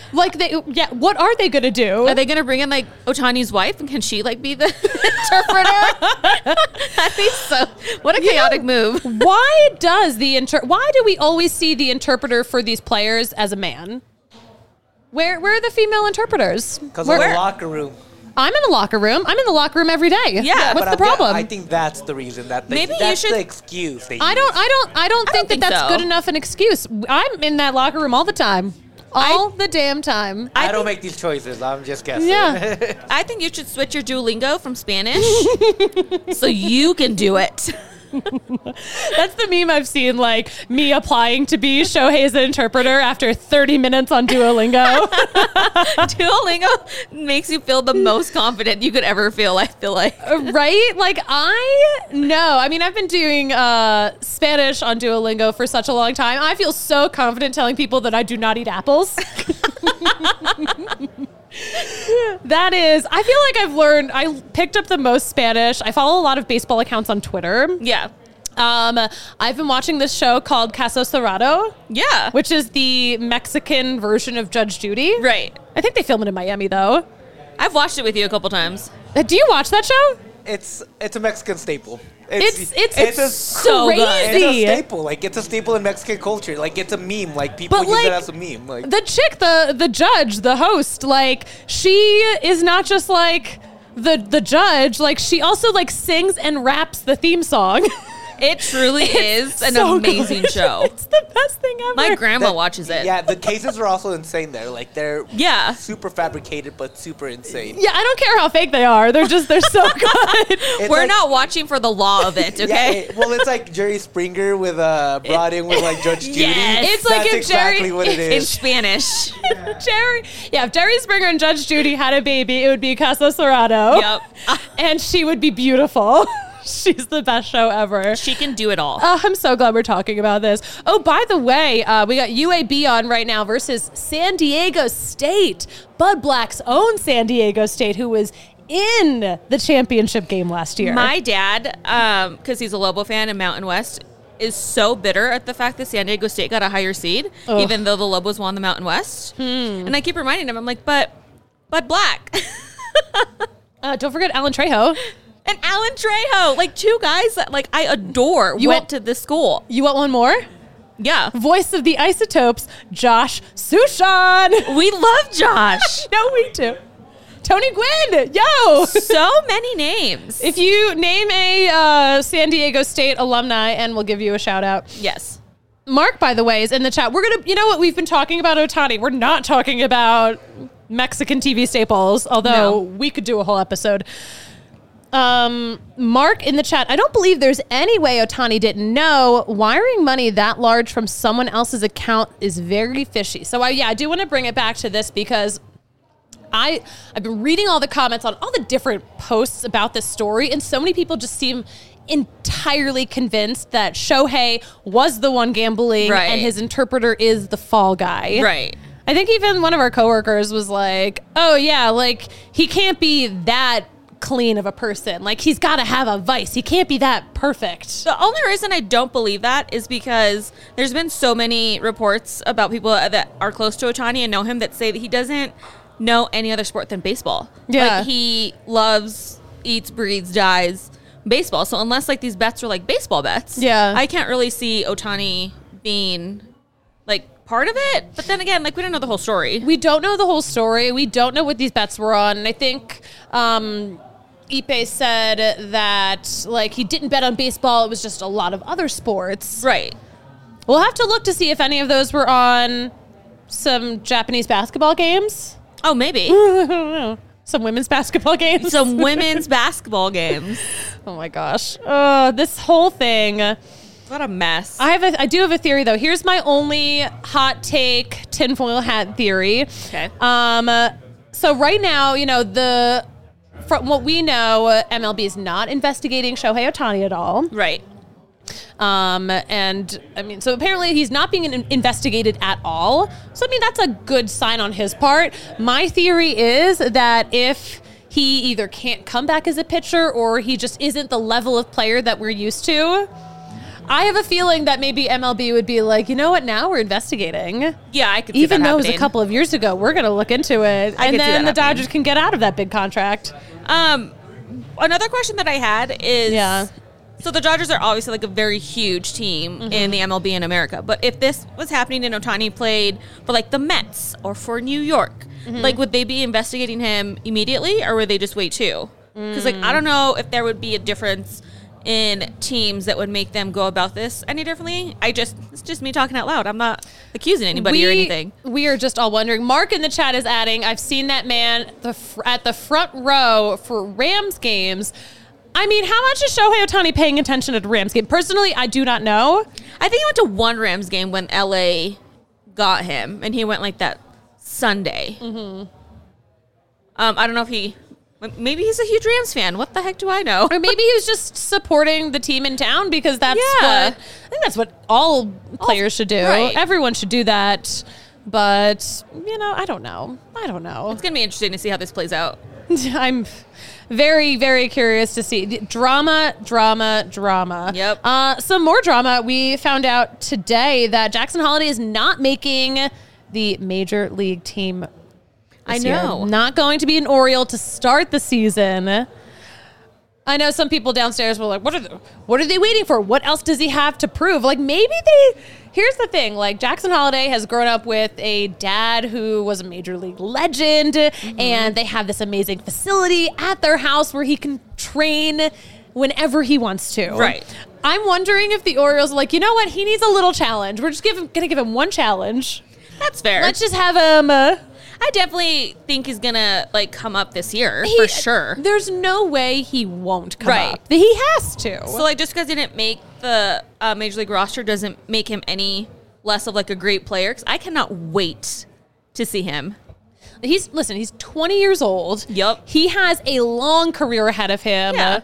Like, they, yeah, what are they going to do? Are they going to bring in like Otani's wife, and can she like be the interpreter? That'd be so. What a chaotic move. Why does the inter? Why do we always see the interpreter for these players as a man? Where where are the female interpreters? Because Where- of the locker room. I'm in the locker room. I'm in the locker room every day. Yeah, What's But the I'm- problem? I think that's the reason. That they, Maybe you that's should- the excuse. They I use. don't. I don't. I don't I think don't that think that's so. good enough an excuse. I'm in that locker room all the time, all the damn time. I, I don't think- make these choices. I'm just guessing. Yeah. I think you should switch your Duolingo from Spanish so you can do it. That's the meme I've seen. Like me applying to be Shohei's interpreter after thirty minutes on Duolingo. Duolingo makes you feel the most confident you could ever feel, I feel like. Right? Like I know. I mean, I've been doing uh, Spanish on Duolingo for such a long time. I feel so confident telling people that I do not eat apples. That is, I feel like I've learned, I picked up the most Spanish. I follow a lot of baseball accounts on Twitter. Yeah. Um, I've been watching this show called Caso Cerrado, Yeah. which is the Mexican version of Judge Judy. Right. I think they film it in Miami, though. I've watched it with you a couple times. Uh, Do you watch that show? It's it's a Mexican staple. It's it's, it's a so good. It's crazy. a staple. Like it's a staple in Mexican culture. Like it's a meme. Like people But, use like, it as a meme. Like The chick, the the judge, the host, like she is not just like the the judge. Like she also like sings and raps the theme song. It truly is an So amazing good. show. It's the best thing ever. My grandma that- watches it. Yeah, the cases are also insane there. Like they're Yeah. super fabricated but super insane. Yeah, I don't care how fake they are. They're just they're so good. It's We're like- not watching for the law of it, Yeah, okay? it- well, it's like Jerry Springer with uh brought in with like Judge Judy. Yes. It's like That's if Jerry- exactly what it In is. Spanish. Jerry, yeah, if Jerry Springer and Judge Judy had a baby, it would be Caso Cerrado. Yep. And she would be beautiful. She's the best show ever. She can do it all. Oh, I'm so glad we're talking about this. Oh, by the way, uh, we got U A B on right now versus San Diego State. Bud Black's own San Diego State, who was in the championship game last year. My dad, um, because he's a Lobo fan in Mountain West, is so bitter at the fact that San Diego State got a higher seed, Ugh. even though the Lobos won the Mountain West. And I keep reminding him, I'm like, but Bud Black. uh, don't forget Alan Trejo. And Alan Trejo, like two guys that like I adore, You went want- to this school. You want one more? Yeah. Voice of the Isotopes, Josh Sushan. We love Josh. No, we do. Tony Gwynn, yo. So many names. If you name a uh, San Diego State alumni, and we'll give you a shout out. Yes. Mark, by the way, is in the chat. We're going to, you know what? We've been talking about Otani. We're not talking about Mexican T V staples, although No. we could do a whole episode. Um, Mark in the chat, I don't believe there's any way Otani didn't know. Wiring money that large from someone else's account is very fishy. So, I, yeah, I do want to bring it back to this because I, I've been reading all the comments on all the different posts about this story, and so many people just seem entirely convinced that Shohei was the one gambling Right. and his interpreter is the fall guy. Right. I think even one of our coworkers was like, oh, yeah, like he can't be that clean of a person. Like he's got to have a vice. He can't be that perfect. The only reason I don't believe that is because there's been so many reports about people that are close to Otani and know him that say that he doesn't know any other sport than baseball. Yeah. Like he loves, eats, breathes, dies baseball. So unless like these bets are like baseball bets, Yeah. I can't really see Otani being like part of it. But then again, like we don't know the whole story. We don't know the whole story. We don't know what these bets were on. And I think um, Ipe said that like he didn't bet on baseball. It was just a lot of other sports. Right. We'll have to look to see if any of those were on some Japanese basketball games. Oh, maybe. I don't know. Some women's basketball games. Some women's basketball games. Oh my gosh. Uh, this whole thing. What a mess. I have a, I do have a theory though. Here's my only hot take tinfoil hat theory. Okay. Um. uh, So right now, you know, the from what we know, uh, M L B is not investigating Shohei Otani at all. Right. Um. And I mean, so apparently he's not being in- investigated at all. So I mean, that's a good sign on his part. My theory is that if he either can't come back as a pitcher or he just isn't the level of player that we're used to. I have a feeling that maybe M L B would be like, you know what? Now we're investigating. Yeah, I could see Even that though it was a happening. couple of years ago, we're going to look into it. I and could see then that the happening. Dodgers can get out of that big contract. Um, another question that I had is, Yeah. so the Dodgers are obviously like a very huge team Mm-hmm. in the M L B in America. But if this was happening and Ohtani played for like the Mets or for New York, Mm-hmm. like would they be investigating him immediately or would they just wait too? Because like Mm. I don't know if there would be a difference in teams that would make them go about this any differently. I just it's just me talking out loud. I'm not accusing anybody or anything. We are just all wondering. Mark in the chat is adding, I've seen that man the fr- at the front row for Rams games. I mean, how much is Shohei Ohtani paying attention at a Rams game? Personally, I do not know. I think he went to one Rams game when L A got him, and he went like that Sunday. Mm-hmm. Um, I don't know if he. Maybe he's a huge Rams fan. What the heck do I know? Or maybe he was just supporting the team in town because that's Yeah. what I think that's what all players should do. right. Everyone should do that. But, you know, I don't know. I don't know. It's gonna be interesting to see how this plays out. I'm very, very curious to see. Drama, drama, drama. Yep. Uh, some more drama. We found out today that Jackson Holiday is not making the Major League team. I this year. know. Not going to be an Oriole to start the season. I know some people downstairs were like, what are they, what are they waiting for? What else does he have to prove? Like, maybe they... Here's the thing. Like, Jackson Holiday has grown up with a dad who was a Major League legend, Mm-hmm. and they have this amazing facility at their house where he can train whenever he wants to. Right. I'm wondering if the Orioles are like, you know what? He needs a little challenge. We're just give him, gonna give him one challenge. That's fair. Let's just have him... Uh, I definitely think he's gonna like come up this year He- for sure. There's no way he won't come Right. up. He has to. So like just because he didn't make the uh, Major League roster doesn't make him any less of like a great player. Because I cannot wait to see him. he's listen. He's twenty years old. Yup. He has a long career ahead of him. Yeah.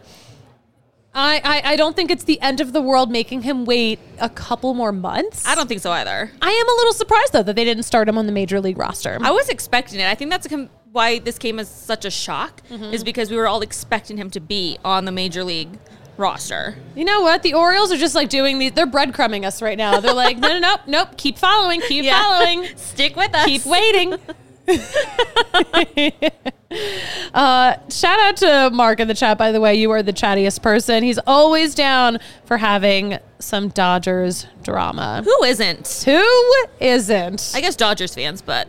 I, I I don't think it's the end of the world making him wait a couple more months. I don't think so either. I am a little surprised though that they didn't start him on the Major League roster. I was expecting it. I think that's a com- why this came as such a shock is because we were all expecting him to be on the Major League roster. You know what? The Orioles are just like doing these. They're breadcrumbing us right now. They're like, no, no, no, nope. Keep following. Keep Yeah. following. Stick with us. Keep waiting. uh, shout out to Mark in the chat, by the way. You are the chattiest person. He's always down for having some Dodgers drama. Who isn't? Who isn't? I guess Dodgers fans, but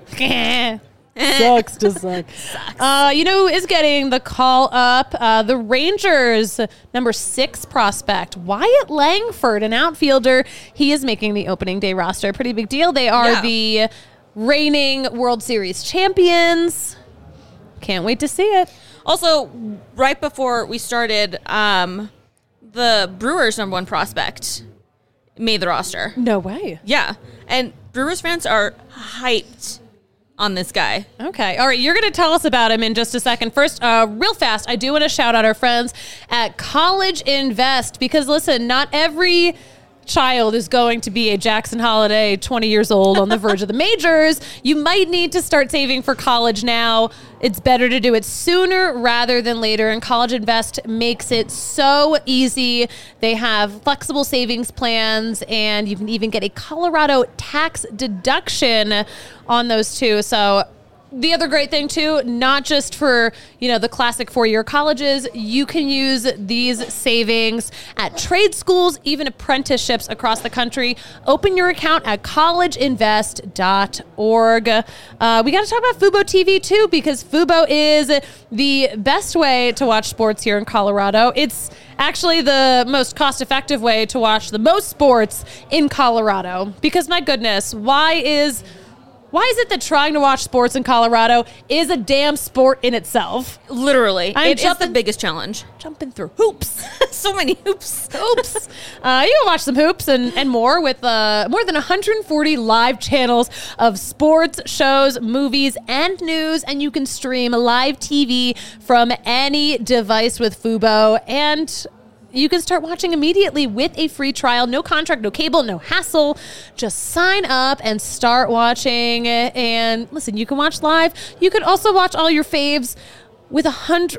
Sucks to suck. Uh, you know who is getting the call up? Uh, the Rangers number six prospect, Wyatt Langford, an outfielder. He is making the opening day roster. Pretty big deal. They are Yeah. the reigning World Series champions. Can't wait to see it. also right before we started, um, the Brewers number one prospect made the roster. No way. Yeah, and Brewers fans are hyped on this guy. Okay. All right. You're going to tell us about him in just a second. First, uh, real fast, I do want to shout out our friends at College Invest because, listen, not every child is going to be a Jackson Holiday, twenty years old on the verge of the majors. You might need to start saving for college now. It's better to do it sooner rather than later. And College Invest makes it so easy. They have flexible savings plans, and you can even get a Colorado tax deduction on those too. So the other great thing too, not just for, you know, the classic four-year colleges, you can use these savings at trade schools, even apprenticeships across the country. Open your account at college invest dot org. Uh, we got to talk about Fubo T V too, because Fubo is the best way to watch sports here in Colorado. It's actually the most cost-effective way to watch the most sports in Colorado, because my goodness, why is... Why is it that trying to watch sports in Colorado is a damn sport in itself? Literally, I'm it is the jumping- biggest challenge. Jumping through hoops. So many hoops. Hoops. Uh, you can watch some hoops and, and more with uh, more than one hundred forty live channels of sports, shows, movies, and news. And you can stream live T V from any device with Fubo. And you can start watching immediately with a free trial. No contract, no cable, no hassle. Just sign up and start watching. And listen, you can watch live. You can also watch all your faves with a hundred or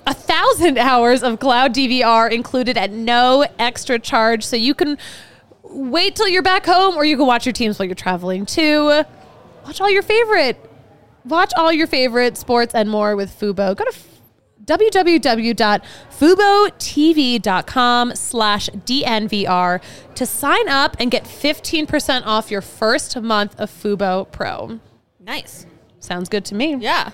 a thousand hours of cloud D V R included at no extra charge. So you can wait till you're back home, or you can watch your teams while you're traveling too. Watch all your favorite, watch all your favorite sports and more with Fubo. Go to w w w dot fubo t v dot com slash D N V R to sign up and get fifteen percent off your first month of Fubo Pro. Nice. Sounds good to me. Yeah.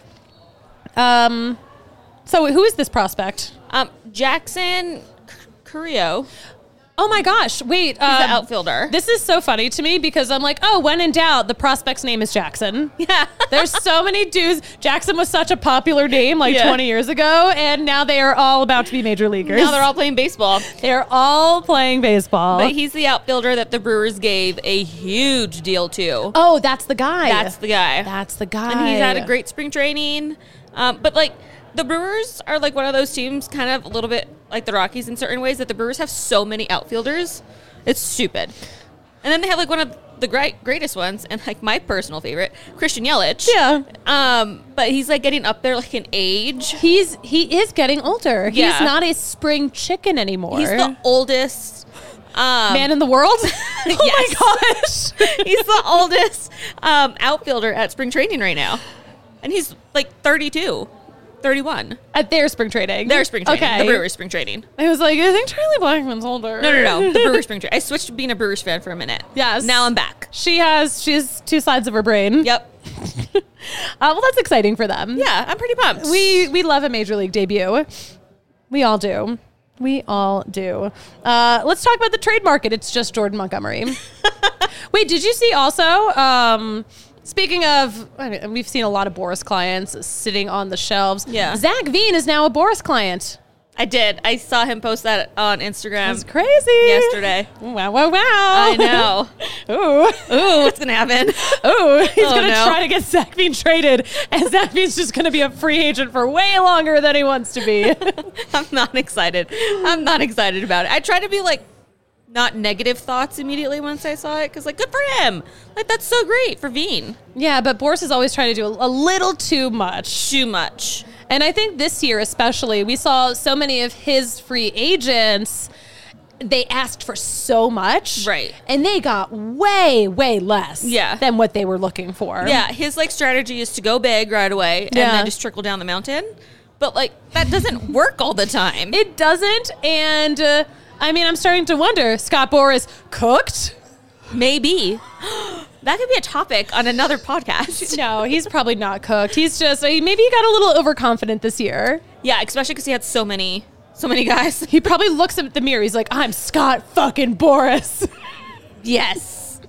Um, so who is this prospect? Um, Jackson Curio. Oh my gosh. Wait. He's um, the outfielder. This is so funny to me because I'm like, oh, when in doubt, the prospect's name is Jackson. Yeah. There's so many dudes. Jackson was such a popular name like Yeah. twenty years ago, and now they are all about to be major leaguers. Now they're all playing baseball. They're all playing baseball. But he's the outfielder that the Brewers gave a huge deal to. oh, that's the guy. That's the guy. That's the guy. And he's had a great spring training. Um, but like the Brewers are like one of those teams, kind of a little bit like the Rockies in certain ways, that the Brewers have so many outfielders. It's stupid. And then they have like one of the great greatest ones, and like my personal favorite, Christian Yelich. Yeah. Um, but he's like getting up there like in age. He's he is getting older. Yeah. He's not a spring chicken anymore. He's the oldest um, man in the world. Oh Yes. my gosh. He's the oldest um, outfielder at spring training right now, and he's like thirty-two, thirty-one. At their spring training. Their spring training, Okay. the Brewers spring training. I was like, I think Charlie Blackmon's older. No, no, no, the Brewers spring training. I switched to being a Brewers fan for a minute. Yes. Now I'm back. She has she has two sides of her brain. Yep. Uh, well, that's exciting for them. Yeah, I'm pretty pumped. We we love a major league debut. We all do. We all do. Uh, let's talk about the trade market. It's just Jordan Montgomery. Wait, did you see also? Um, speaking of, I mean, we've seen a lot of Boris clients sitting on the shelves. Yeah. Zach Veen is now a Boris client. I did. I saw him post that on Instagram That's crazy. yesterday. Wow, wow, wow. I know. Ooh. Ooh, what's gonna happen? Ooh, he's Oh, going to no. try to get Zach Veen traded, and Zach Veen's just going to be a free agent for way longer than he wants to be. I'm not excited. I'm not excited about it. I try to be like not negative thoughts immediately once I saw it, because like good for him. Like that's so great for Veen. Yeah, but Boris is always trying to do a, a little too much. Too much. And I think this year especially, we saw so many of his free agents, they asked for so much. Right. And they got way, way less Yeah. than what they were looking for. Yeah, his like strategy is to go big right away and Yeah. then just trickle down the mountain. But like that doesn't work all the time. It doesn't. And uh, I mean, I'm starting to wonder, Scott Boras cooked? Maybe. That could be a topic on another podcast. No, he's probably not cooked. He's just, maybe he got a little overconfident this year. Yeah, especially because he had so many, so many guys. He probably looks at the mirror. He's like, I'm Scott fucking Boras. Yes.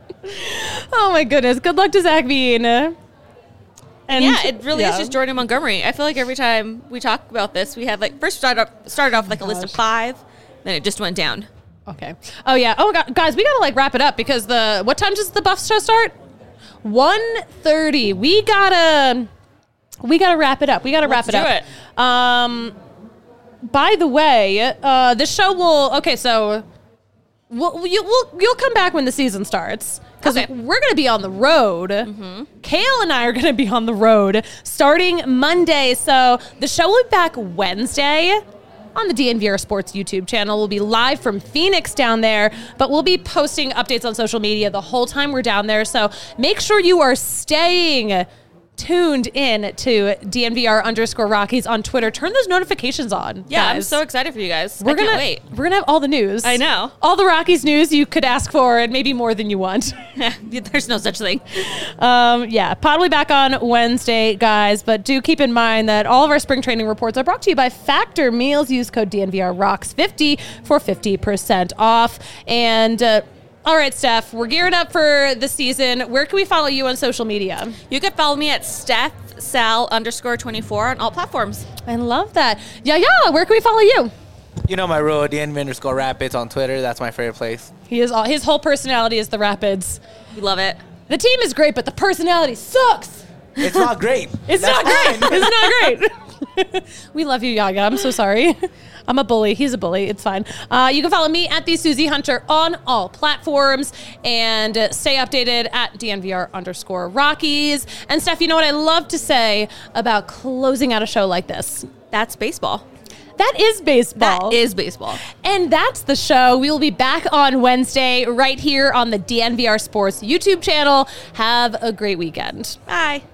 Oh my goodness. Good luck to Zach Veen. And yeah, it really yeah. is just Jordan Montgomery. I feel like every time we talk about this, we had like first started off, started off with like a list of five, then it just went down. Okay. Oh yeah. Oh God, guys, we gotta like wrap it up because the what time does the Buffs show start? one thirty. We gotta we gotta wrap it up. We gotta wrap Let's it do up. It. Um. By the way, uh, the show will. Okay, so we'll you, we'll you'll come back when the season starts because Okay. we're gonna be on the road. Mm-hmm. Kale and I are gonna be on the road starting Monday. So the show will be back Wednesday on the D N V R Sports YouTube channel. We'll be live from Phoenix down there, but we'll be posting updates on social media the whole time we're down there. So make sure you are staying tuned in to D N V R underscore Rockies on Twitter. Turn those notifications on. Yeah, I'm guys. so excited for you guys. We're I gonna can't wait. we're gonna have all the news. I know. All the Rockies news you could ask for, and maybe more than you want. There's no such thing. Um, yeah, Pod will be back on Wednesday, guys. But do keep in mind that all of our spring training reports are brought to you by Factor Meals. Use code D N V R Rocks fifty for fifty percent off. And uh, all right, Steph, we're gearing up for the season. Where can we follow you on social media? You can follow me at Steph Sal underscore twenty-four on all platforms. I love that. Yeah, yeah. Where can we follow you? You know my rule, D N V underscore Rapids on Twitter. That's my favorite place. He is all, his whole personality is the Rapids. We love it. The team is great, but the personality sucks. It's not great. It's That's not great. fine. It's not great. We love you, Yaga. I'm so sorry. I'm a bully. He's a bully. It's fine. Uh, you can follow me at the Susie Hunter on all platforms and uh, stay updated at D N V R underscore Rockies. And Steph, you know what I love to say about closing out a show like this? That's baseball. That is baseball. That is baseball. And that's the show. We will be back on Wednesday right here on the D N V R Sports YouTube channel. Have a great weekend. Bye.